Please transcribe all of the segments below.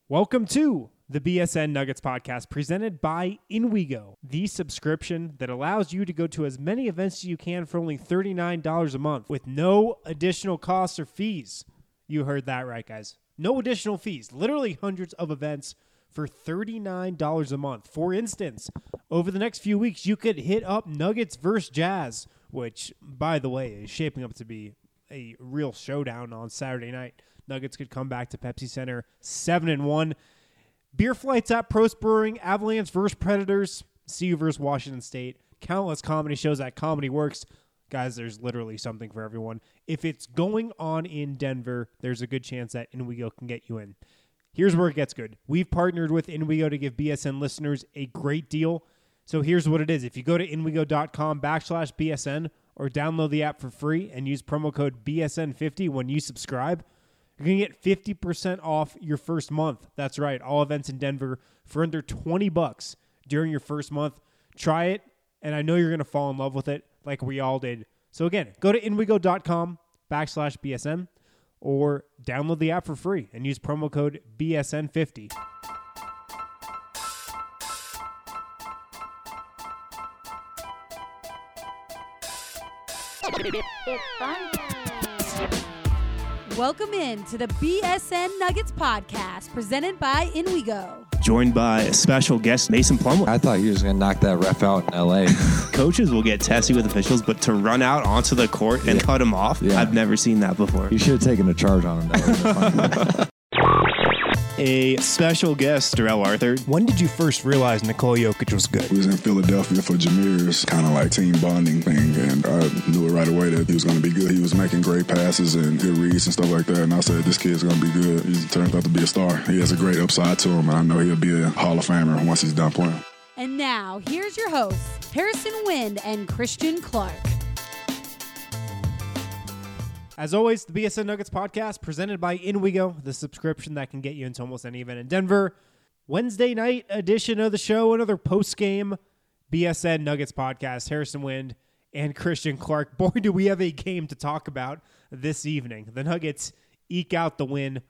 Welcome to the BSN Nuggets podcast presented by InWeGo, the subscription that allows you to go to as many events as you can for only $39 a month with no additional costs or fees. You heard that right, guys. No additional fees. Literally hundreds of events for $39 a month. For instance, over the next few weeks, you could hit up Nuggets versus Jazz, which, by the way, is shaping up to be a real showdown on Saturday night. Nuggets could come back to Pepsi Center 7-1. Beer flights at Prost Brewing, Avalanche versus Predators, CU versus Washington State. Countless comedy shows at Comedy Works. Guys, there's literally something for everyone. If it's going on in Denver, there's a good chance that InWeGo can get you in. Here's where it gets good. We've partnered with InWeGo to give BSN listeners a great deal. So here's what it is. If you go to InWeGo.com/BSN or download the app for free and use promo code BSN50 when you subscribe, you're going to get 50% off your first month. That's right. All events in Denver for under $20 during your first month. Try it, and I know you're going to fall in love with it like we all did. So again, go to InWeGo.com/BSN or download the app for free and use promo code BSN50. It's fun. Welcome in to the BSN Nuggets podcast presented by InWeGo. Joined by a special guest, Mason Plumlee. I thought he was going to knock that ref out in L.A. Coaches will get testy with officials, but to run out onto the court and cut him off, I've never seen that before. You should have taken a charge on him. That A special guest, Darrell Arthur. When did you first realize Nikola Jokic was good? We was in Philadelphia for Jameer's kind of like team bonding thing, and I knew it right away that he was going to be good. He was making great passes and good reads and stuff like that, and I said, this kid's going to be good. He turns out to be a star. He has a great upside to him, and I know he'll be a Hall of Famer once he's done playing. And now, here's your hosts, Harrison Wind and Christian Clark. As always, the BSN Nuggets podcast presented by InWeGo, the subscription that can get you into almost any event in Denver. Wednesday night edition of the show, another post-game BSN Nuggets podcast. Harrison Wind and Christian Clark. Boy, do we have a game to talk about this evening. The Nuggets eke out the win,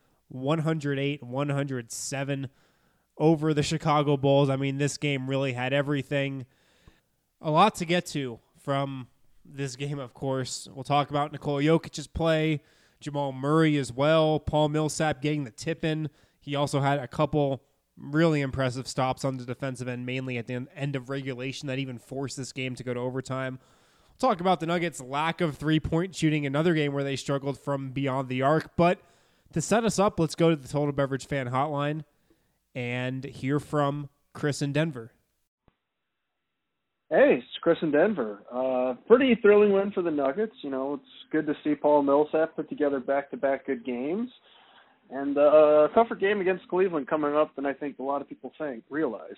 108-107 over the Chicago Bulls. I mean, this game really had everything. A lot to get to from this game, of course. We'll talk about Nikola Jokic's play, Jamal Murray as well, Paul Millsap getting the tip in. He also had a couple really impressive stops on the defensive end, mainly at the end of regulation that even forced this game to go to overtime. We'll talk about the Nuggets' lack of three-point shooting, another game where they struggled from beyond the arc. But to set us up, let's go to the Total Beverage Fan Hotline and hear from Chris in Denver. Hey, it's Chris in Denver. Pretty thrilling win for the Nuggets. You know, it's good to see Paul Millsap put together back-to-back good games. And a tougher game against Cleveland coming up than I think a lot of people realize.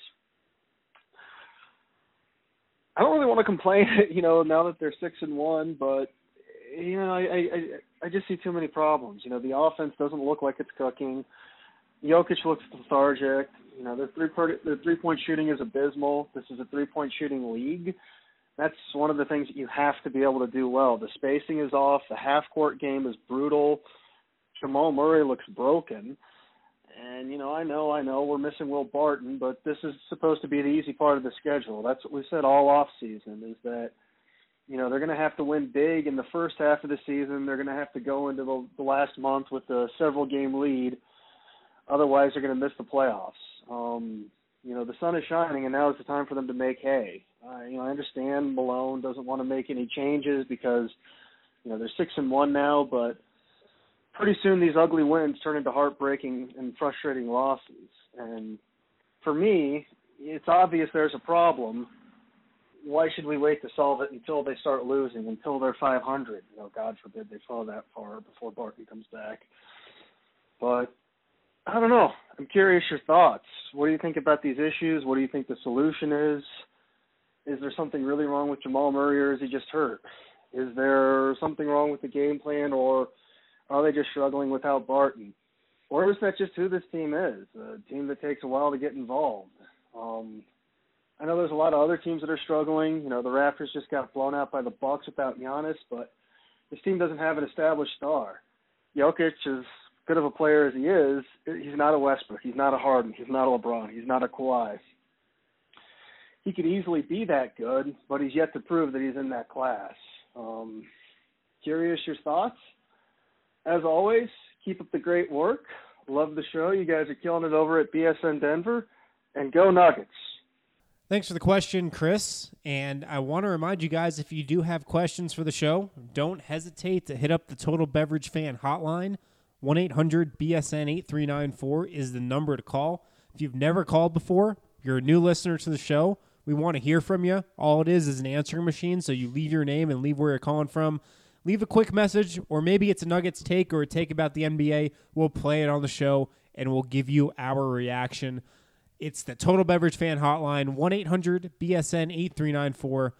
I don't really want to complain, you know, now that they're 6-1, but, you know, I just see too many problems. You know, the offense doesn't look like it's cooking. Jokic looks lethargic. You know, their three-point shooting is abysmal. This is a three-point shooting league. That's one of the things that you have to be able to do well. The spacing is off. The half-court game is brutal. Jamal Murray looks broken. And, you know, I know we're missing Will Barton, but this is supposed to be the easy part of the schedule. That's what we said all off-season is that, you know, they're going to have to win big in the first half of the season. They're going to have to go into the last month with a several-game lead. Otherwise, they're going to miss the playoffs. You know, the sun is shining, and now is the time for them to make hay. You know, I understand Malone doesn't want to make any changes because, you know, they're 6-1 now, but pretty soon these ugly wins turn into heartbreaking and frustrating losses. And for me, it's obvious there's a problem. Why should we wait to solve it until they start losing, until they're 500? You know, God forbid they fall that far before Barton comes back. But I don't know. I'm curious your thoughts. What do you think about these issues? What do you think the solution is? Is there something really wrong with Jamal Murray, or is he just hurt? Is there something wrong with the game plan, or are they just struggling without Barton? Or is that just who this team is, a team that takes a while to get involved? I know there's a lot of other teams that are struggling. You know, the Raptors just got blown out by the Bucks without Giannis, but this team doesn't have an established star. Jokic is good of a player as he is, he's not a Westbrook, he's not a Harden, he's not a LeBron, he's not a Kawhi. He could easily be that good, but he's yet to prove that he's in that class. Curious your thoughts? As always, keep up the great work. Love the show. You guys are killing it over at BSN Denver. And go Nuggets. Thanks for the question, Chris. And I want to remind you guys, if you do have questions for the show, don't hesitate to hit up the Total Beverage Fan hotline. 1-800-BSN-8394 is the number to call. If you've never called before, you're a new listener to the show, we want to hear from you. All it is an answering machine, so you leave your name and leave where you're calling from. Leave a quick message, or maybe it's a Nuggets take or a take about the NBA. We'll play it on the show, and we'll give you our reaction. It's the Total Beverage Fan Hotline, 1-800-BSN-8394,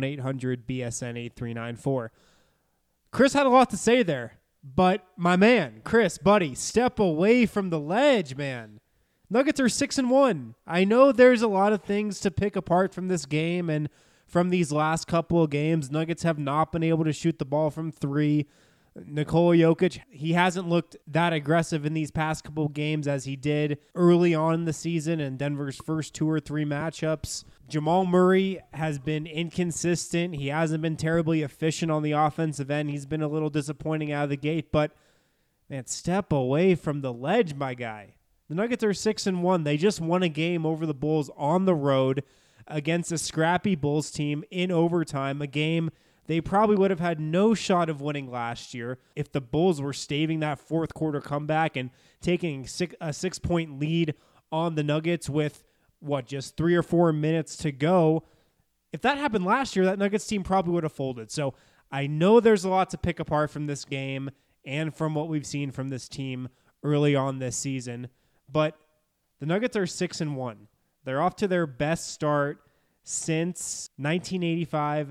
1-800-BSN-8394. Chris had a lot to say there, but my man, Chris, buddy, step away from the ledge, man. Nuggets are 6-1. I know there's a lot of things to pick apart from this game, and from these last couple of games, Nuggets have not been able to shoot the ball from three. Nikola Jokic, he hasn't looked that aggressive in these past couple of games as he did early on in the season in Denver's first 2 or 3 matchups. Jamal Murray has been inconsistent. He hasn't been terribly efficient on the offensive end. He's been a little disappointing out of the gate, but man, step away from the ledge, my guy. The Nuggets are 6-1. They just won a game over the Bulls on the road against a scrappy Bulls team in overtime, a game they probably would have had no shot of winning last year if the Bulls were staving that fourth quarter comeback and taking a 6-point lead on the Nuggets with, just 3 or 4 minutes to go. If that happened last year, that Nuggets team probably would have folded. So I know there's a lot to pick apart from this game and from what we've seen from this team early on this season, but the Nuggets are 6-1. They're off to their best start since 1985,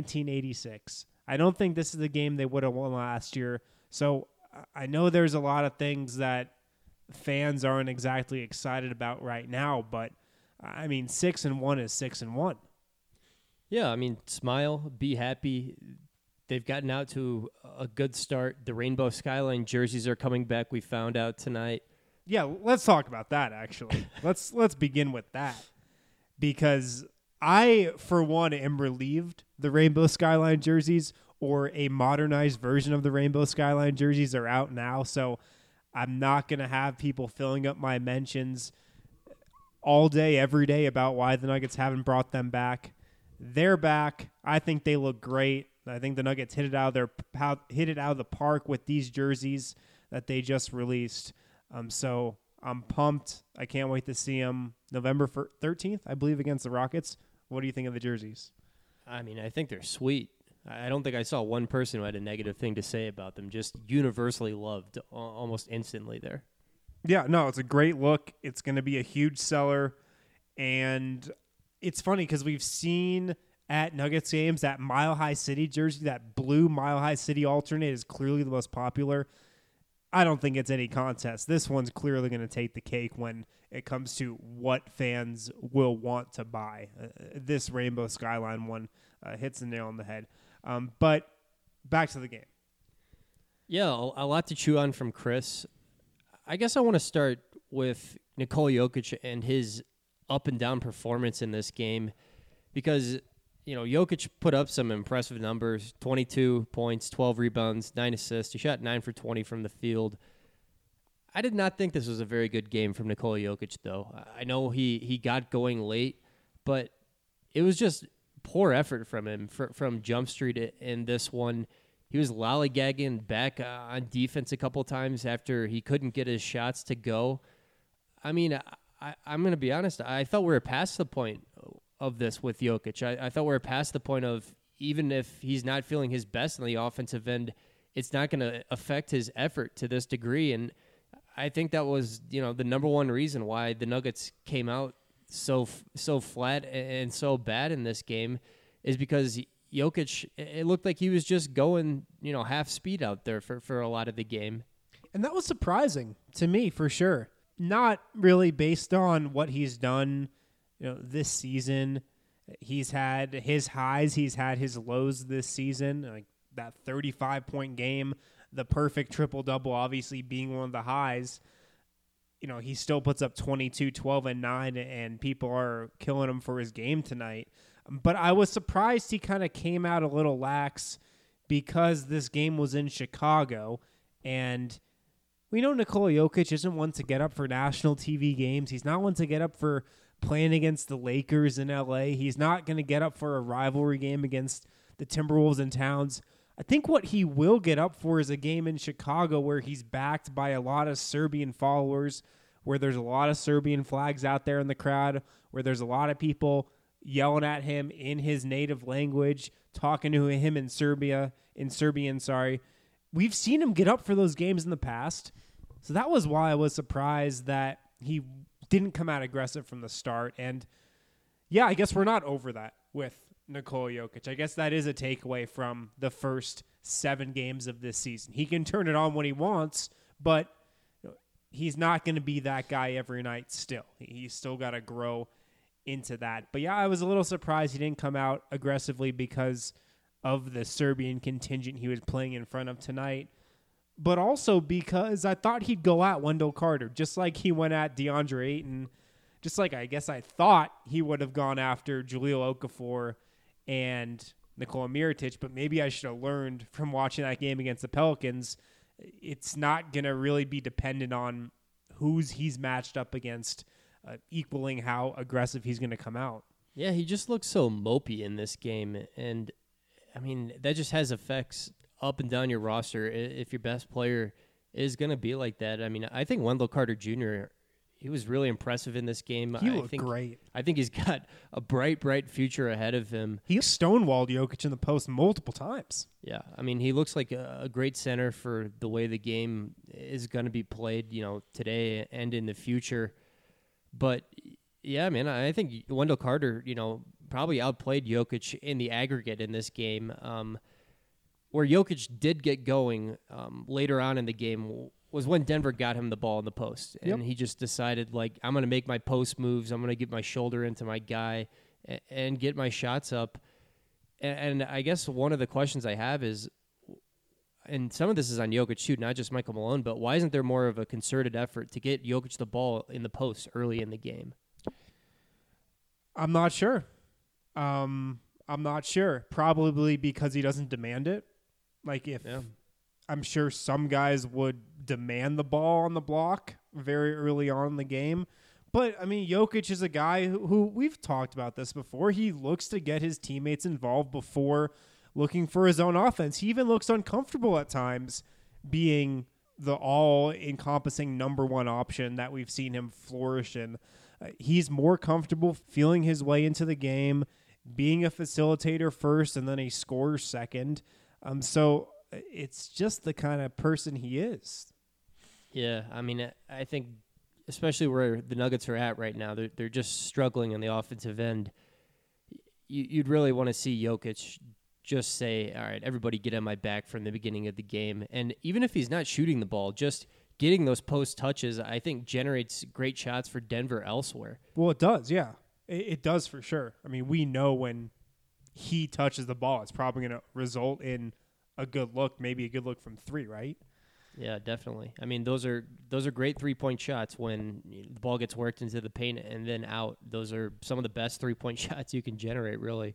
1986. I don't think this is the game they would have won last year. So I know there's a lot of things that fans aren't exactly excited about right now, but I mean, 6-1 is 6-1. Yeah, I mean, smile, be happy. They've gotten out to a good start. The Rainbow Skyline jerseys are coming back, we found out tonight. Yeah, let's talk about that, actually. let's begin with that. Because I, for one, am relieved the Rainbow Skyline jerseys or a modernized version of the Rainbow Skyline jerseys are out now. So I'm not going to have people filling up my mentions all day, every day about why the Nuggets haven't brought them back. They're back. I think they look great. I think the Nuggets hit it out of the park with these jerseys that they just released. So I'm pumped. I can't wait to see them November 13th, I believe, against the Rockets. What do you think of the jerseys? I mean, I think they're sweet. I don't think I saw one person who had a negative thing to say about them. Just universally loved almost instantly there. Yeah, no, it's a great look. It's going to be a huge seller. And it's funny because we've seen at Nuggets games that Mile High City jersey, that blue Mile High City alternate is clearly the most popular. I don't think it's any contest. This one's clearly going to take the cake when it comes to what fans will want to buy. This Rainbow Skyline one hits the nail on the head. But back to the game. Yeah, a lot to chew on from Chris. I guess I want to start with Nikola Jokic and his up and down performance in this game because, Jokic put up some impressive numbers, 22 points, 12 rebounds, 9 assists. He shot 9 for 20 from the field. I did not think this was a very good game from Nikola Jokic, though. I know he got going late, but it was just poor effort from him from Jump Street in this one. He was lollygagging back on defense a couple times after he couldn't get his shots to go. I mean, I'm going to be honest. I thought we were past the point of this with Jokic. I thought we were past the point of even if he's not feeling his best on the offensive end, it's not going to affect his effort to this degree. And I think that was, the number one reason why the Nuggets came out so flat and so bad in this game is because Jokic, it looked like he was just going, half speed out there for a lot of the game. And that was surprising to me, for sure. Not really based on what he's done, this season. He's had his highs, he's had his lows this season, like that 35-point game the perfect triple-double obviously being one of the highs, he still puts up 22, 12, and 9, and people are killing him for his game tonight. But I was surprised he kind of came out a little lax because this game was in Chicago, and we know Nikola Jokic isn't one to get up for national TV games. He's not one to get up for playing against the Lakers in LA. He's not going to get up for a rivalry game against the Timberwolves in Towns. I think what he will get up for is a game in Chicago where he's backed by a lot of Serbian followers, where there's a lot of Serbian flags out there in the crowd, where there's a lot of people yelling at him in his native language, talking to him in Serbian. We've seen him get up for those games in the past. So that was why I was surprised that he didn't come out aggressive from the start. And yeah, I guess we're not over that with Nikola Jokic. I guess that is a takeaway from the first 7 games of this season. He can turn it on when he wants, but he's not going to be that guy every night still. He's still got to grow into that. But yeah, I was a little surprised he didn't come out aggressively because of the Serbian contingent he was playing in front of tonight, but also because I thought he'd go at Wendell Carter, just like he went at DeAndre Ayton, just like I guess I thought he would have gone after Jahlil Okafor and Nikola Mirotic, but maybe I should have learned from watching that game against the Pelicans. It's not going to really be dependent on who's he's matched up against, equaling how aggressive he's going to come out. Yeah, he just looks so mopey in this game, and I mean, that just has effects up and down your roster if your best player is going to be like that. I mean, I think Wendell Carter Jr., he was really impressive in this game. He looked great. I think he's got a bright future ahead of him. He stonewalled Jokic in the post multiple times. Yeah, I mean, he looks like a great center for the way the game is going to be played, today and in the future. But yeah, man, I think Wendell Carter, probably outplayed Jokic in the aggregate in this game. Where Jokic did get going later on in the game was when Denver got him the ball in the post. And he just decided, I'm going to make my post moves. I'm going to get my shoulder into my guy and get my shots up. And I guess one of the questions I have is, and some of this is on Jokic too, not just Michael Malone, but why isn't there more of a concerted effort to get Jokic the ball in the post early in the game? I'm not sure. Probably because he doesn't demand it. I'm sure some guys would demand the ball on the block very early on in the game. But, I mean, Jokic is a guy who we've talked about this before. He looks to get his teammates involved before looking for his own offense. He even looks uncomfortable at times being the all-encompassing number one option that we've seen him flourish in. He's more comfortable feeling his way into the game, being a facilitator first, and then a scorer second. So it's just the kind of person he is. Yeah, I mean, I think especially where the Nuggets are at right now, they're just struggling on the offensive end. You'd really want to see Jokic just say, all right, everybody get on my back from the beginning of the game. And even if he's not shooting the ball, just getting those post touches, I think, generates great shots for Denver elsewhere. Well, it does, yeah. It does for sure. I mean, we know when he touches the ball, it's probably going to result in a good look, maybe a good look from 3, right? Yeah, definitely. I mean, those are great 3-point shots when the ball gets worked into the paint and then out. Those are some of the best 3-point shots you can generate, really.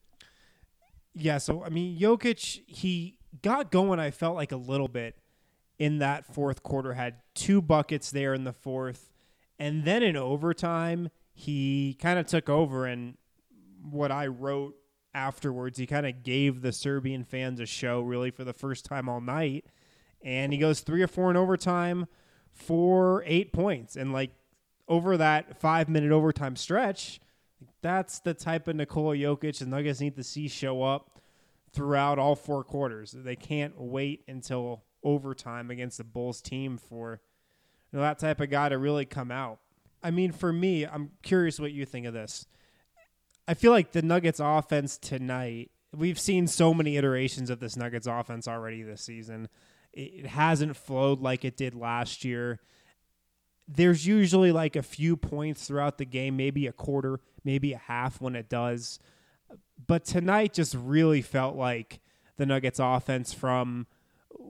Yeah, so, I mean, Jokic, he got going, I felt like, a little bit in that fourth quarter, had 2 buckets there in the fourth, and then in overtime, he kind of took over, and what I wrote afterwards, he kind of gave the Serbian fans a show, really, for the first time all night, and he goes 3 or 4 in overtime for 8 points, and, over that 5-minute overtime stretch, that's the type of Nikola Jokic the Nuggets need to see show up throughout all 4 quarters. They can't wait until overtime against the Bulls team for that type of guy to really come out. I mean, for me, I'm curious what you think of this. I feel like the Nuggets offense tonight, we've seen so many iterations of this Nuggets offense already this season. It hasn't flowed like it did last year. There's usually a few points throughout the game, maybe a quarter, maybe a half when it does. But tonight just really felt like the Nuggets offense from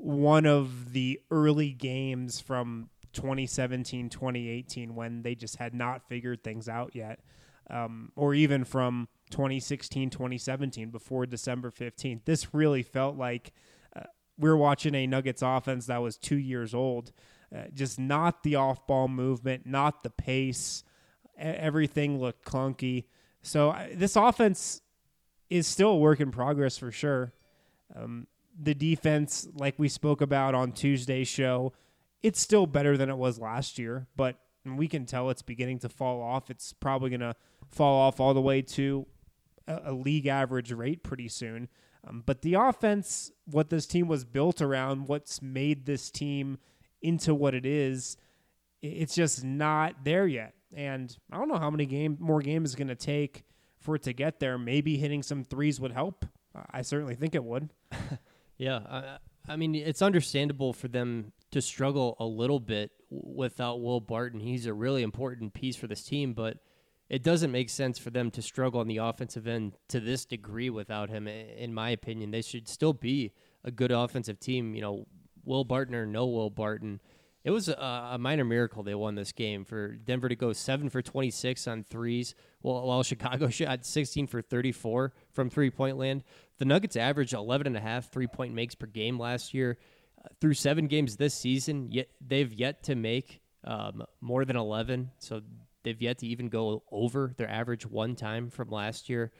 one of the early games from 2017, 2018 when they just had not figured things out yet, or even from 2016, 2017 before December 15th. This really felt like we're watching a Nuggets offense that was 2 years old. Just not the off-ball movement, not the pace. Everything looked clunky. So this offense is still a work in progress for sure. The defense, like we spoke about on Tuesday's show, it's still better than it was last year, but we can tell it's beginning to fall off. It's probably going to fall off all the way to a league average rate pretty soon. But the offense, what this team was built around, what's made this team into what it is, it's just not there yet. And I don't know how many more games it's going to take for it to get there. Maybe hitting some threes would help. I certainly think it would. Yeah, I mean, it's understandable for them to struggle a little bit without Will Barton. He's a really important piece for this team, but it doesn't make sense for them to struggle on the offensive end to this degree without him, in my opinion. They should still be a good offensive team, Will Barton or no Will Barton. It was a minor miracle they won this game for Denver to go 7 for 26 on threes, while Chicago shot 16 for 34 from three-point land. The Nuggets averaged 11.5 three-point makes per game last year. Through 7 games this season, they've yet to make more than 11, so they've yet to even go over their average one time from last year.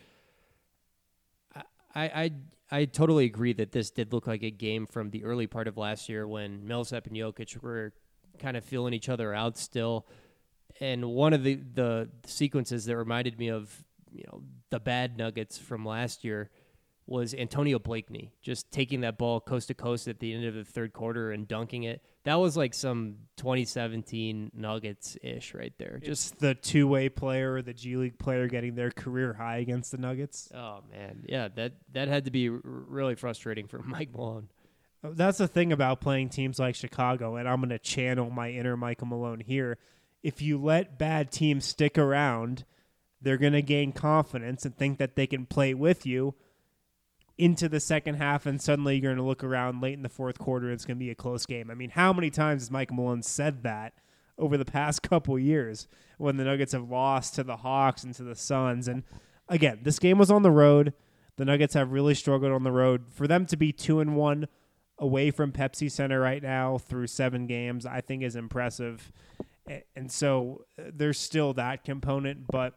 I totally agree that this did look like a game from the early part of last year when Millsap and Jokic were kind of feeling each other out still. And one of the sequences that reminded me of the bad Nuggets from last year was Antonio Blakeney just taking that ball coast to coast at the end of the third quarter and dunking it. That was like some 2017 Nuggets-ish right there. Just the two-way player, the G League player getting their career high against the Nuggets. Oh, man. Yeah, that had to be really frustrating for Mike Malone. That's the thing about playing teams like Chicago, and I'm going to channel my inner Michael Malone here. If you let bad teams stick around, they're going to gain confidence and think that they can play with you into the second half, and suddenly you're going to look around late in the fourth quarter and it's going to be a close game. I mean, how many times has Mike Malone said that over the past couple years when the Nuggets have lost to the Hawks and to the Suns? And again, this game was on the road. The Nuggets have really struggled on the road. For them to be 2-1 away from Pepsi Center right now through 7 games, I think is impressive. And so there's still that component. But,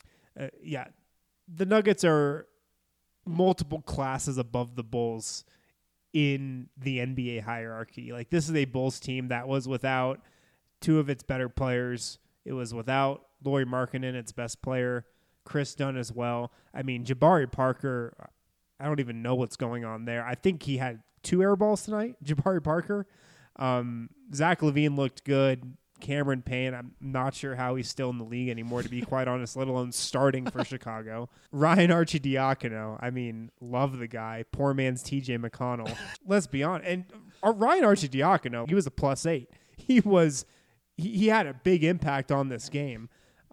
the Nuggets are multiple classes above the Bulls in the NBA hierarchy. Like, this is a Bulls team that was without 2 of its better players. It was without Lauri Markkanen, its best player, Chris Dunn as well. I mean, Jabari Parker, I don't even know what's going on there. I think he had 2 air balls tonight, Jabari Parker. Zach LaVine looked good. Cameron Payne, I'm not sure how he's still in the league anymore, to be quite honest, let alone starting for Chicago. Ryan Arcidiacono, I mean, love the guy. Poor man's TJ McConnell. Let's be honest. And Ryan Arcidiacono, he was a +8. He had a big impact on this game.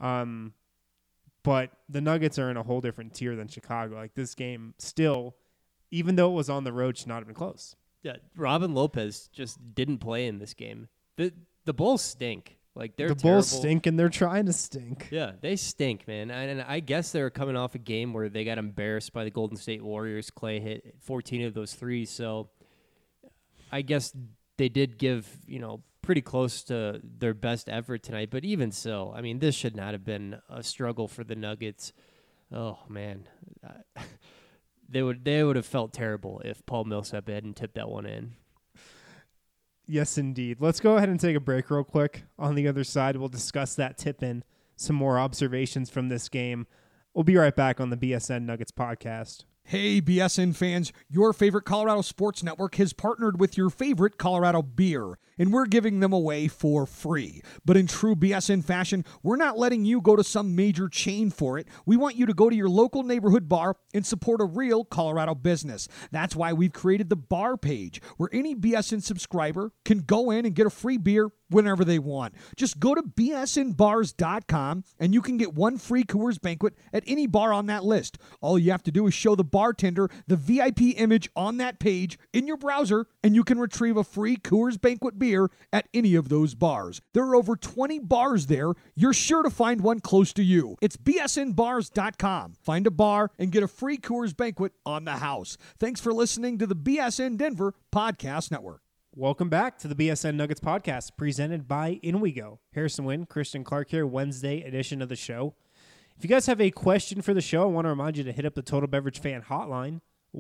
But the Nuggets are in a whole different tier than Chicago. Like, this game still, even though it was on the road, should not have been close. Yeah, Robin Lopez just didn't play in this game. The Bulls stink. Like, they're terrible. Bulls stink, and they're trying to stink. Yeah, they stink, man. And I guess they were coming off a game where they got embarrassed by the Golden State Warriors. Clay hit 14 of those threes, so I guess they did give, pretty close to their best effort tonight. But even so, I mean, this should not have been a struggle for the Nuggets. Oh, man. They would have felt terrible if Paul Millsap hadn't tipped that one in. Yes, indeed. Let's go ahead and take a break real quick. On the other side, we'll discuss that tip-in, some more observations from this game. We'll be right back on the BSN Nuggets podcast. Hey, BSN fans, your favorite Colorado Sports Network has partnered with your favorite Colorado beer, and we're giving them away for free. But in true BSN fashion, we're not letting you go to some major chain for it. We want you to go to your local neighborhood bar and support a real Colorado business. That's why we've created the bar page, where any BSN subscriber can go in and get a free beer whenever they want. Just go to bsnbars.com and you can get one free Coors Banquet at any bar on that list. All you have to do is show the bartender the VIP image on that page in your browser, and you can retrieve a free Coors Banquet beer at any of those bars. There are over 20 bars there. You're sure to find one close to you. It's bsnbars.com. Find a bar and get a free Coors Banquet on the house. Thanks for listening to the BSN Denver Podcast Network. Welcome back to the BSN Nuggets podcast presented by InWeGo. Harrison Wynn, Christian Clark here, Wednesday edition of the show. If you guys have a question for the show, I want to remind you to hit up the Total Beverage Fan Hotline,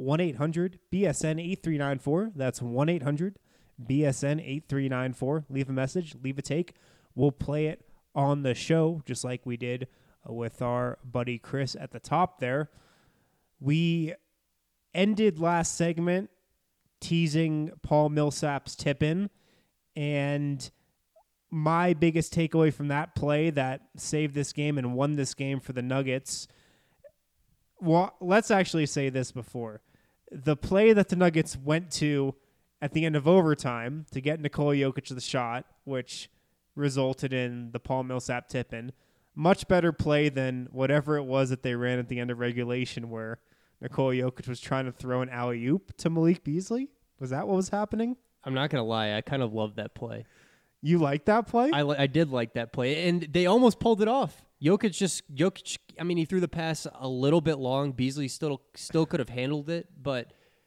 1-800-BSN-8394. That's 1-800-BSN-8394. Leave a message, leave a take. We'll play it on the show, just like we did with our buddy Chris at the top there. We ended last segment teasing Paul Millsap's tip-in, and my biggest takeaway from that play that saved this game and won this game for the Nuggets, well, let's actually say this before. The play that the Nuggets went to at the end of overtime to get Nikola Jokic the shot, which resulted in the Paul Millsap tip-in, much better play than whatever it was that they ran at the end of regulation where Nikola Jokic was trying to throw an alley-oop to Malik Beasley. Was that what was happening? I'm not going to lie. I kind of loved that play. You liked that play? I did like that play, and they almost pulled it off. Jokic, I mean, he threw the pass a little bit long. Beasley still could have handled it, but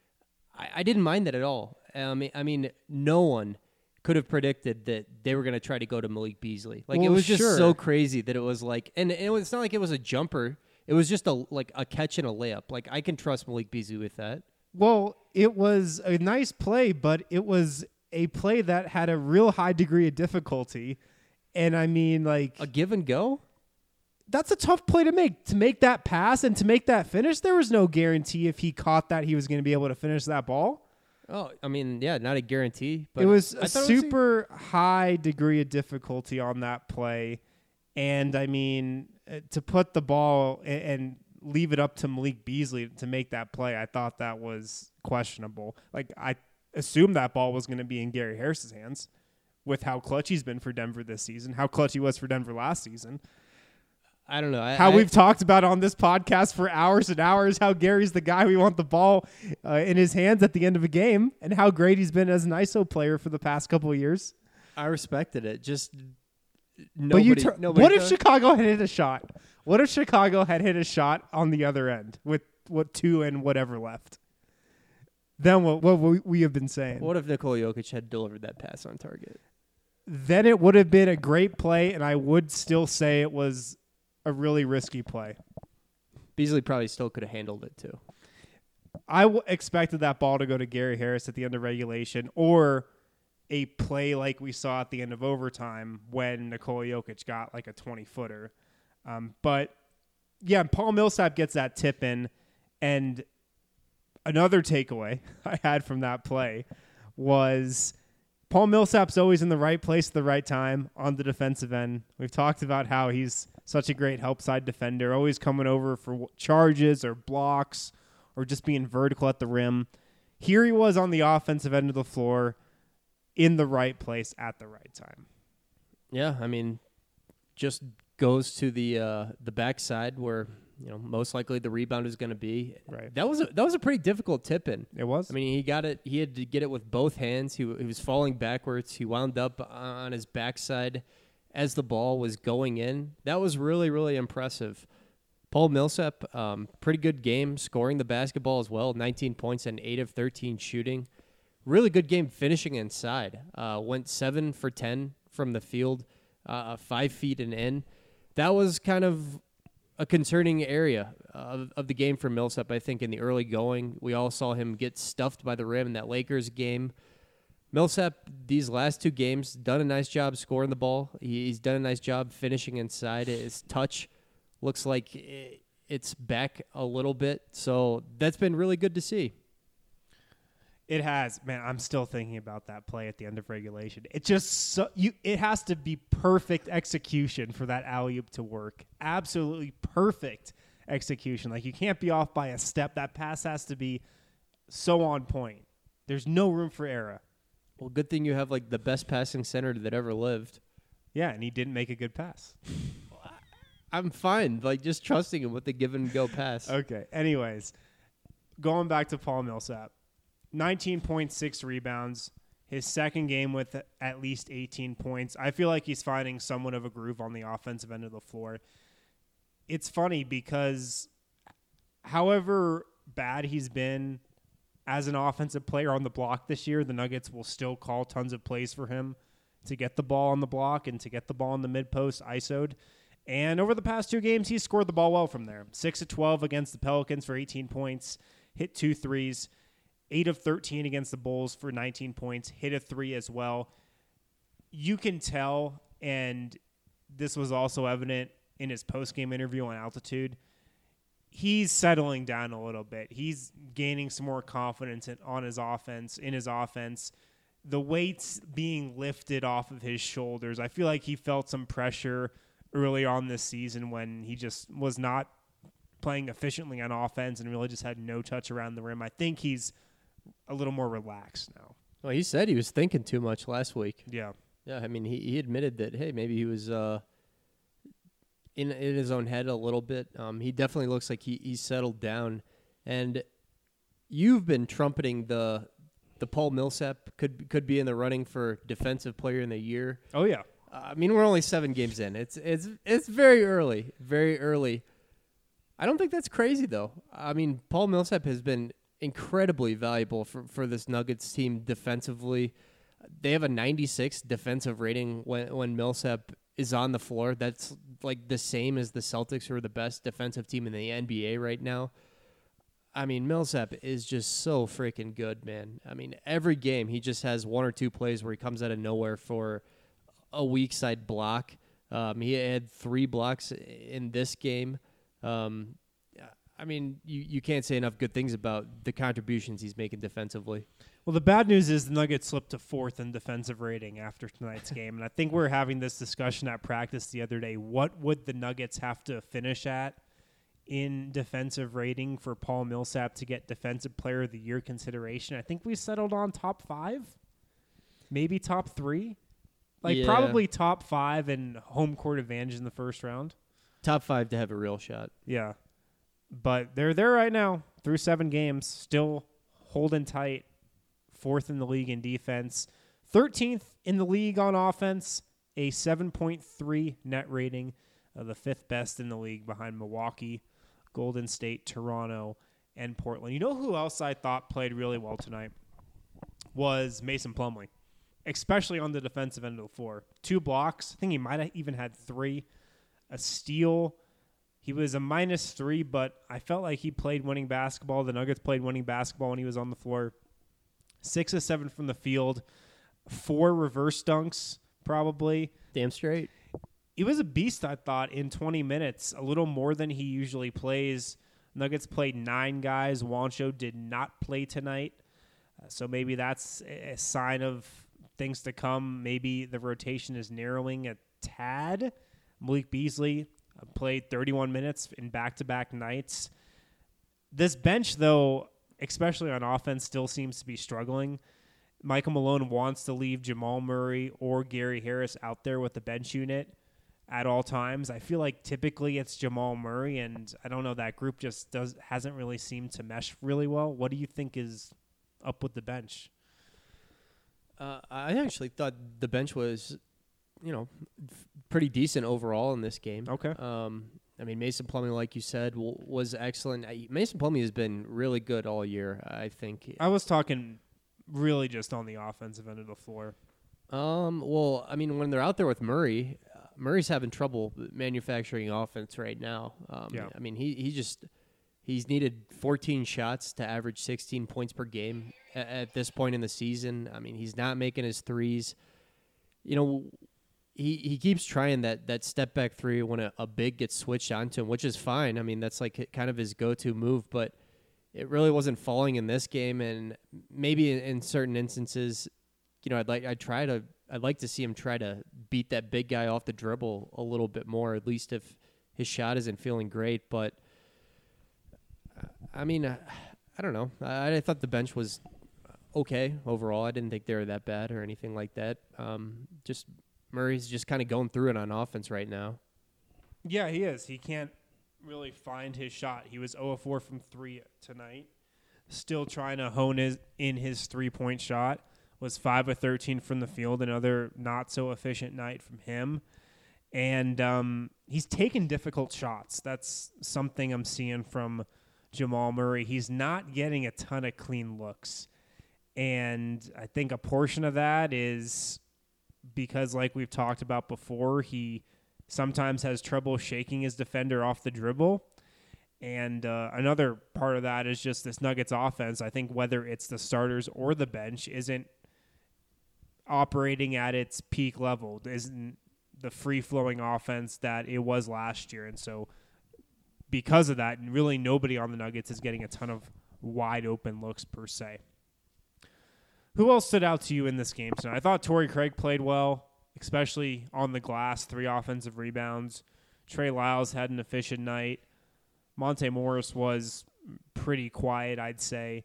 I didn't mind that at all. I mean, no one could have predicted that they were going to try to go to Malik Beasley. Like, it was just so crazy that it was like, and it's not like it was a jumper. It was just a catch and a layup. Like, I can trust Malik Beasley with that. Well, it was a nice play, but it was a play that had a real high degree of difficulty. And I mean, like, a give and go? That's a tough play to make. To make that pass and to make that finish, there was no guarantee if he caught that he was going to be able to finish that ball. Oh, I mean, yeah, not a guarantee. But it was a super high degree of difficulty on that play. And I mean, to put the ball and leave it up to Malik Beasley to make that play, I thought that was questionable. Like, I assumed that ball was going to be in Gary Harris's hands with how clutch he's been for Denver this season, how clutch he was for Denver last season. I don't know. We've talked about on this podcast for hours and hours how Gary's the guy we want the ball in his hands at the end of a game, and how great he's been as an ISO player for the past couple of years. I respected it. Just nobody. What if Chicago had hit a shot? What if Chicago had hit a shot on the other end with 2 and whatever left? Then what we have been saying. What if Nikola Jokic had delivered that pass on target? Then it would have been a great play, and I would still say it was a really risky play. Beasley probably still could have handled it too. I expected that ball to go to Gary Harris at the end of regulation, or a play like we saw at the end of overtime when Nikola Jokic got like a 20-footer. But, yeah, Paul Millsap gets that tip in, and another takeaway I had from that play was Paul Millsap's always in the right place at the right time on the defensive end. We've talked about how he's such a great help side defender, always coming over for charges or blocks or just being vertical at the rim. Here he was on the offensive end of the floor in the right place at the right time. Yeah, I mean, just goes to the backside where, you know, most likely the rebound is going to be. Right. That was a pretty difficult tip in. It was. I mean, he got it. He had to get it with both hands. He was falling backwards. He wound up on his backside as the ball was going in. That was really, really impressive. Paul Millsap, pretty good game, scoring the basketball as well. 19 points and 8 of 13 shooting. Really good game finishing inside. Went 7 for 10 from the field, 5 feet and in. That was kind of a concerning area of the game for Millsap, I think, in the early going. We all saw him get stuffed by the rim in that Lakers game. Millsap, these last 2 games, done a nice job scoring the ball. He's done a nice job finishing inside. His touch looks like it's back a little bit. So that's been really good to see. It has. Man, I'm still thinking about that play at the end of regulation. It just it has to be perfect execution for that alley-oop to work. Absolutely perfect execution. Like, you can't be off by a step. That pass has to be so on point. There's no room for error. Well, good thing you have like the best passing center that ever lived. Yeah, and he didn't make a good pass. I'm fine, like just trusting him with the give and go pass. Okay. Anyways, going back to Paul Millsap, 19.6 rebounds. His second game with at least 18 points. I feel like he's finding somewhat of a groove on the offensive end of the floor. It's funny because however bad he's been as an offensive player on the block this year, the Nuggets will still call tons of plays for him to get the ball on the block and to get the ball in the mid-post ISO'd. And over the past 2 games, he's scored the ball well from there. 6 of 12 against the Pelicans for 18 points, hit 2 threes. 8 of 13 against the Bulls for 19 points, hit a 3 as well. You can tell, and this was also evident in his post-game interview on Altitude, he's settling down a little bit. He's gaining some more confidence in his offense. The weight's being lifted off of his shoulders. I feel like he felt some pressure early on this season when he just was not playing efficiently on offense and really just had no touch around the rim. I think he's a little more relaxed now. Well, he said he was thinking too much last week. Yeah. Yeah, I mean, he admitted that, hey, maybe he was in his own head a little bit. He definitely looks like he's settled down. And you've been trumpeting the Paul Millsap could be in the running for Defensive Player in the Year. Oh, yeah. I mean, we're only 7 games in. It's very early, very early. I don't think that's crazy, though. I mean, Paul Millsap has been incredibly valuable for this Nuggets team defensively. They have a 96 defensive rating when Millsap is on the floor. That's like the same as the Celtics, who are the best defensive team in the NBA right now. I mean, Millsap is just so freaking good, man. I mean, every game he just has 1 or 2 plays where he comes out of nowhere for a weak side block. He had 3 blocks in this game. I mean, you can't say enough good things about the contributions he's making defensively. Well, the bad news is the Nuggets slipped to 4th in defensive rating after tonight's game. And I think we were having this discussion at practice the other day. What would the Nuggets have to finish at in defensive rating for Paul Millsap to get Defensive Player of the Year consideration? I think we settled on top 5, maybe top 3. Probably top 5 and home court advantage in the first round. Top 5 to have a real shot. Yeah. But they're there right now through 7 games, still holding tight, 4th in the league in defense, 13th in the league on offense, a 7.3 net rating, the 5th best in the league behind Milwaukee, Golden State, Toronto, and Portland. You know who else I thought played really well tonight was Mason Plumlee, especially on the defensive end of the floor. 2 blocks. I think he might have even had 3. A steal. He was a -3, but I felt like he played winning basketball. The Nuggets played winning basketball when he was on the floor. 6 of 7 from the field. 4 reverse dunks, probably. Damn straight. He was a beast, I thought, in 20 minutes, a little more than he usually plays. Nuggets played 9 guys. Juancho did not play tonight. So maybe that's a sign of things to come. Maybe the rotation is narrowing a tad. Malik Beasley played 31 minutes in back-to-back nights. This bench, though, especially on offense, still seems to be struggling. Michael Malone wants to leave Jamal Murray or Gary Harris out there with the bench unit at all times. I feel like typically it's Jamal Murray, and I don't know, that group just hasn't really seemed to mesh really well. What do you think is up with the bench? I actually thought the bench was, pretty decent overall in this game. Okay. I mean, Mason Plumlee, like you said, was excellent. Mason Plumlee has been really good all year, I think. I was talking really just on the offensive end of the floor. Well, I mean, when they're out there with Murray, Murray's having trouble manufacturing offense right now. Yeah. I mean, he's needed 14 shots to average 16 points per game at this point in the season. I mean, he's not making his threes. He keeps trying that step back 3 when a big gets switched onto him, which is fine. I mean, that's like kind of his go-to move, but it really wasn't falling in this game. And maybe in certain instances, I'd like to see him try to beat that big guy off the dribble a little bit more, at least if his shot isn't feeling great. But I mean, I don't know. I thought the bench was okay overall. I didn't think they were that bad or anything like that. Just Murray's just kind of going through it on offense right now. Yeah, he is. He can't really find his shot. He was 0 of 4 from 3 tonight. Still trying to hone in his 3-point shot. Was 5 of 13 from the field. Another not so efficient night from him. And he's taken difficult shots. That's something I'm seeing from Jamal Murray. He's not getting a ton of clean looks. And I think a portion of that is because, like we've talked about before, he sometimes has trouble shaking his defender off the dribble. And another part of that is just this Nuggets offense. I think whether it's the starters or the bench isn't operating at its peak level, isn't the free-flowing offense that it was last year. And so because of that, really nobody on the Nuggets is getting a ton of wide-open looks per se. Who else stood out to you in this game tonight? I thought Torrey Craig played well, especially on the glass, 3 offensive rebounds. Trey Lyles had an efficient night. Monte Morris was pretty quiet, I'd say.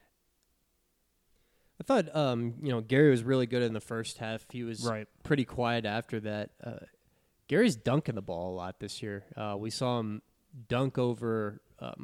I thought, Gary was really good in the first half. He was pretty quiet after that. Gary's dunking the ball a lot this year. We saw him dunk over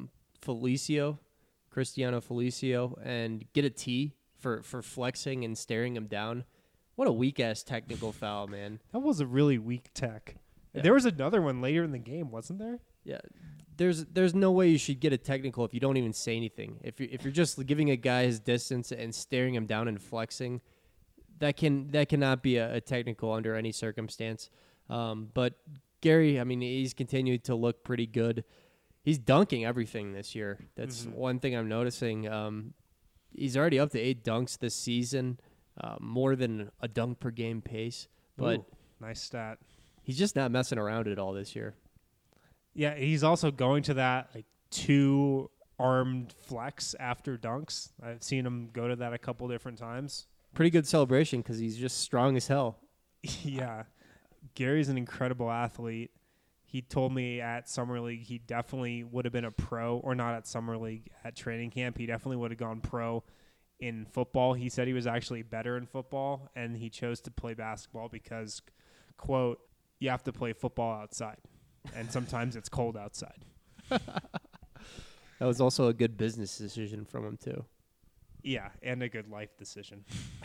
Cristiano Felicio, and get a tee for flexing and staring him down. What a weak-ass technical foul, man. That was a really weak tech. Yeah. There was another one later in the game, wasn't there? Yeah. There's no way you should get a technical if you don't even say anything. If you're just giving a guy his distance and staring him down and flexing, that cannot be a technical under any circumstance. But Gary, I mean, he's continued to look pretty good. He's dunking everything this year. That's one thing I'm noticing. He's already up to 8 dunks this season, more than a dunk per game pace. But nice stat. He's just not messing around at all this year. Yeah, he's also going to that 2-armed flex after dunks. I've seen him go to that a couple different times. Pretty good celebration because he's just strong as hell. Yeah. Gary's an incredible athlete. He told me at Summer League he definitely would have been a pro, or not at Summer League, at training camp. He definitely would have gone pro in football. He said he was actually better in football, and he chose to play basketball because, quote, you have to play football outside. And sometimes it's cold outside. That was also a good business decision from him, too. Yeah, and a good life decision.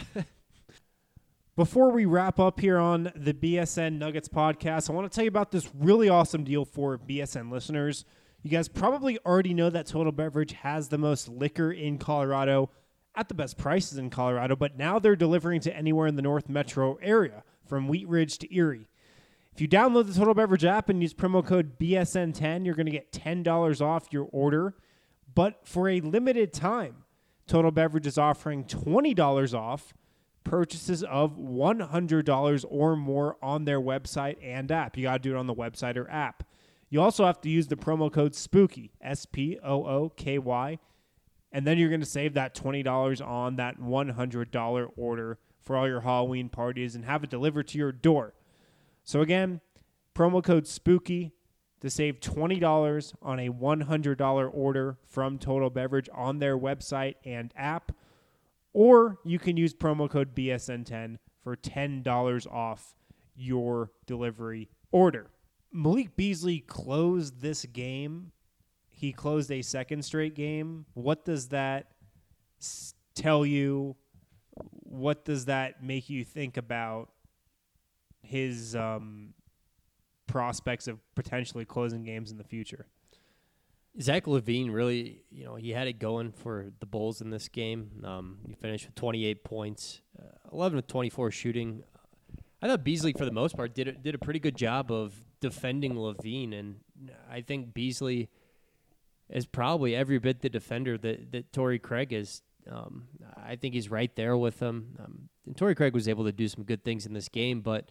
Before we wrap up here on the BSN Nuggets podcast, I want to tell you about this really awesome deal for BSN listeners. You guys probably already know that Total Beverage has the most liquor in Colorado at the best prices in Colorado, but now they're delivering to anywhere in the North Metro area, from Wheat Ridge to Erie. If you download the Total Beverage app and use promo code BSN10, you're going to get $10 off your order. But for a limited time, Total Beverage is offering $20 off purchases of $100 or more on their website and app. You got to do it on the website or app. You also have to use the promo code SPOOKY, SPOOKY, and then you're going to save that $20 on that $100 order for all your Halloween parties and have it delivered to your door. So again, promo code SPOOKY to save $20 on a $100 order from Total Beverage on their website and app. Or you can use promo code BSN10 for $10 off your delivery order. Malik Beasley closed this game. He closed a second straight game. What does that tell you? What does that make you think about his prospects of potentially closing games in the future? Zach LaVine really, he had it going for the Bulls in this game. He finished with 28 points, 11 of 24 shooting. I thought Beasley, for the most part, did a pretty good job of defending LaVine, and I think Beasley is probably every bit the defender that Torrey Craig is. I think he's right there with him. And Torrey Craig was able to do some good things in this game, but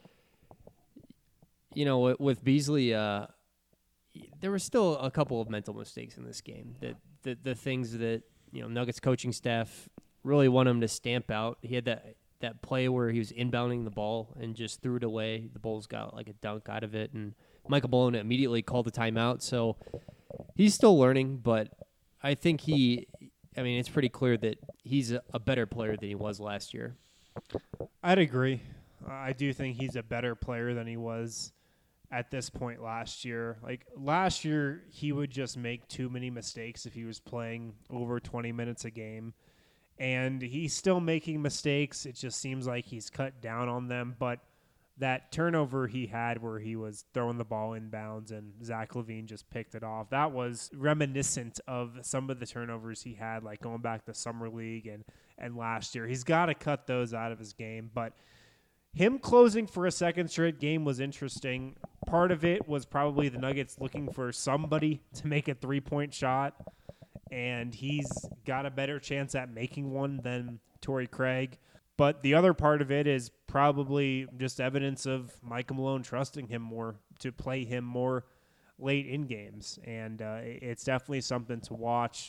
with Beasley, there were still a couple of mental mistakes in this game. The things that Nuggets coaching staff really want him to stamp out. He had that play where he was inbounding the ball and just threw it away. The Bulls got like a dunk out of it, and Michael Malone immediately called the timeout. So he's still learning, but I think it's pretty clear that he's a better player than he was last year. I'd agree. I do think he's a better player than he was at this point last year. Like last year, he would just make too many mistakes if he was playing over 20 minutes a game. And he's still making mistakes. It just seems like he's cut down on them. But that turnover he had where he was throwing the ball inbounds and Zach LaVine just picked it off, that was reminiscent of some of the turnovers he had, like going back to Summer League and last year. He's got to cut those out of his game. But him closing for a second straight game was interesting. Part of it was probably the Nuggets looking for somebody to make a three-point shot, and he's got a better chance at making one than Torrey Craig. But the other part of it is probably just evidence of Michael Malone trusting him more to play him more late in games, and it's definitely something to watch.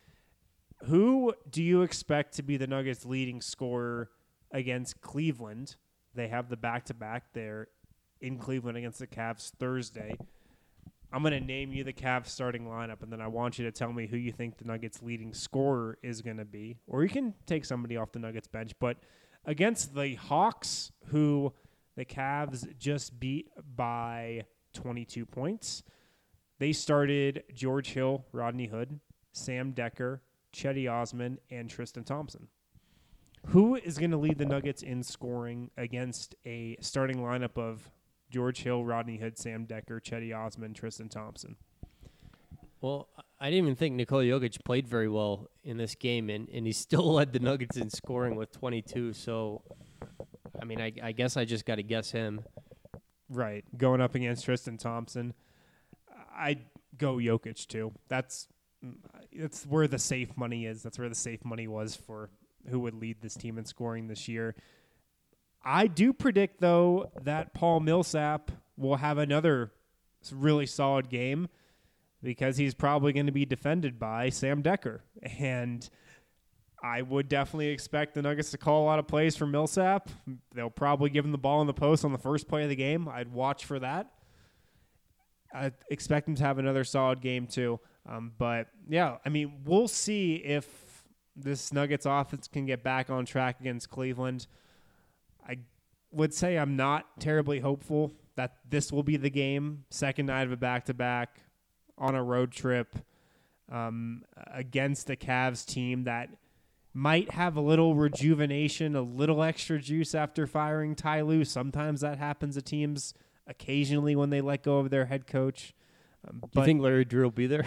Who do you expect to be the Nuggets' leading scorer against Cleveland? They have the back-to-back there in Cleveland against the Cavs Thursday. I'm going to name you the Cavs starting lineup, and then I want you to tell me who you think the Nuggets' leading scorer is going to be. Or you can take somebody off the Nuggets bench. But against the Hawks, who the Cavs just beat by 22 points, they started George Hill, Rodney Hood, Sam Decker, Chetty Osman, and Tristan Thompson. Who is going to lead the Nuggets in scoring against a starting lineup of George Hill, Rodney Hood, Sam Decker, Chetty Osman, Tristan Thompson? Well, I didn't even think Nikola Jokic played very well in this game, and he still led the Nuggets in scoring with 22. So, I mean, I guess I just got to guess him. Right, going up against Tristan Thompson. I'd go Jokic, too. That's where the safe money is. That's where the safe money was for who would lead this team in scoring this year. I do predict, though, that Paul Millsap will have another really solid game because he's probably going to be defended by Sam Decker. And I would definitely expect the Nuggets to call a lot of plays for Millsap. They'll probably give him the ball in the post on the first play of the game. I'd watch for that. I expect him to have another solid game, too. But, yeah, I mean, we'll see if this Nuggets offense can get back on track against Cleveland. I would say I'm not terribly hopeful that this will be the game. Second night of a back-to-back on a road trip against the Cavs team that might have a little rejuvenation, a little extra juice after firing Ty Lue. Sometimes that happens to teams occasionally when they let go of their head coach. Do you think Larry Drew will be there?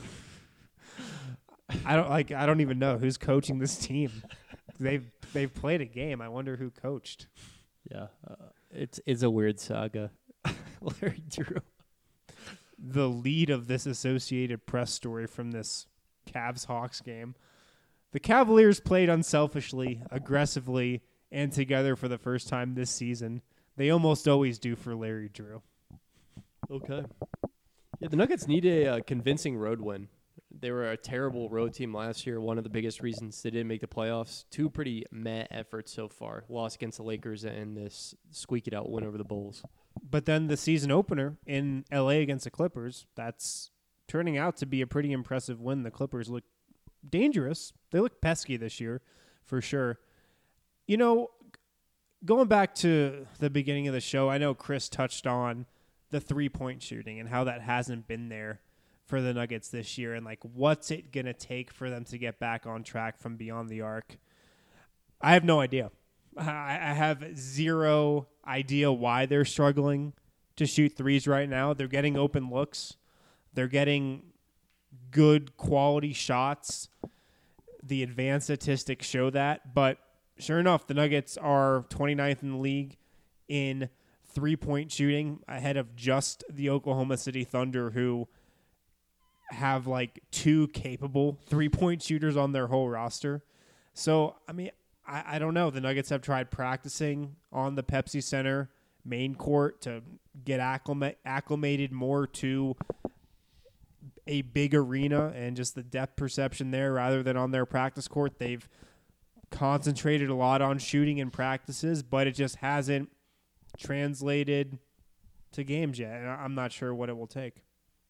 I don't even know who's coaching this team. They've played a game. I wonder who coached. Yeah, it's a weird saga. Larry Drew. The lead of this Associated Press story from this Cavs-Hawks game. The Cavaliers played unselfishly, aggressively, and together for the first time this season. They almost always do for Larry Drew. Okay. Yeah, the Nuggets need a convincing road win. They were a terrible road team last year. One of the biggest reasons they didn't make the playoffs. Two pretty meh efforts so far. Loss against the Lakers and this squeak-it-out win over the Bulls. But then the season opener in L.A. against the Clippers, that's turning out to be a pretty impressive win. The Clippers look dangerous. They look pesky this year, for sure. You know, going back to the beginning of the show, I know Chris touched on the three-point shooting and how that hasn't been there for the Nuggets this year, and like what's it going to take for them to get back on track from beyond the arc. I have no idea. I have zero idea why they're struggling to shoot threes right now. They're getting open looks. They're getting good quality shots. The advanced statistics show that, but sure enough, the Nuggets are 29th in the league in three-point shooting, ahead of just the Oklahoma City Thunder, who have like two capable three-point shooters on their whole roster. So, I mean, I don't know. The Nuggets have tried practicing on the Pepsi Center main court to get acclimated more to a big arena and just the depth perception there rather than on their practice court. They've concentrated a lot on shooting in practices, but it just hasn't translated to games yet. And I'm not sure what it will take.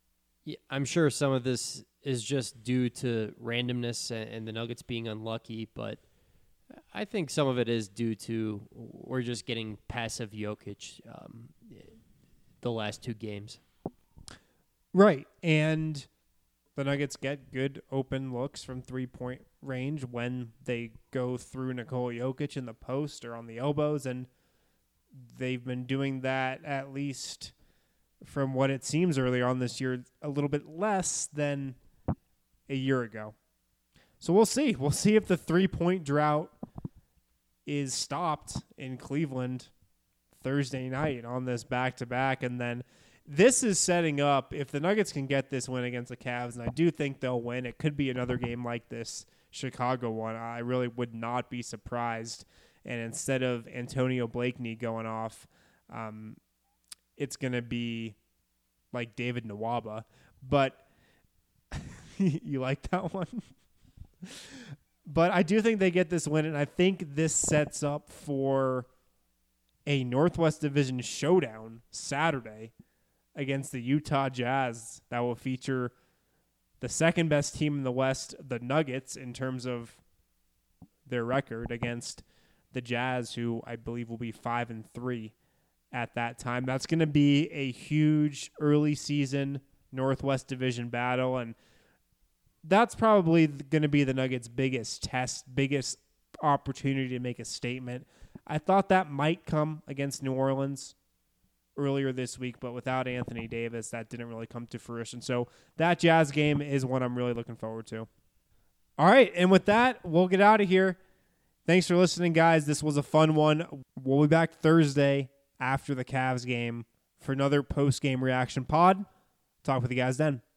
Yeah, I'm sure some of this is just due to randomness and the Nuggets being unlucky, but I think some of it is due to we're just getting passive Jokic the last 2 games. Right, and the Nuggets get good open looks from 3-point range when they go through Nikola Jokic in the post or on the elbows, and they've been doing that at least from what it seems earlier on this year, a little bit less than a year ago. So we'll see. We'll see if the 3-point drought is stopped in Cleveland Thursday night on this back-to-back. And then this is setting up, if the Nuggets can get this win against the Cavs, and I do think they'll win, it could be another game like this Chicago one. I really would not be surprised. And instead of Antonio Blakeney going off, it's going to be like David Nwaba. But you like that one? But I do think they get this win, and I think this sets up for a Northwest Division showdown Saturday against the Utah Jazz that will feature the second best team in the West, the Nuggets, in terms of their record, against the Jazz, who I believe will be 5-3 at that time. That's going to be a huge early season Northwest Division battle, and that's probably going to be the Nuggets' biggest test, biggest opportunity to make a statement. I thought that might come against New Orleans earlier this week, but without Anthony Davis, that didn't really come to fruition. So that Jazz game is one I'm really looking forward to. All right, and with that, we'll get out of here. Thanks for listening, guys. This was a fun one. We'll be back Thursday after the Cavs game for another post-game reaction pod. Talk with you guys then.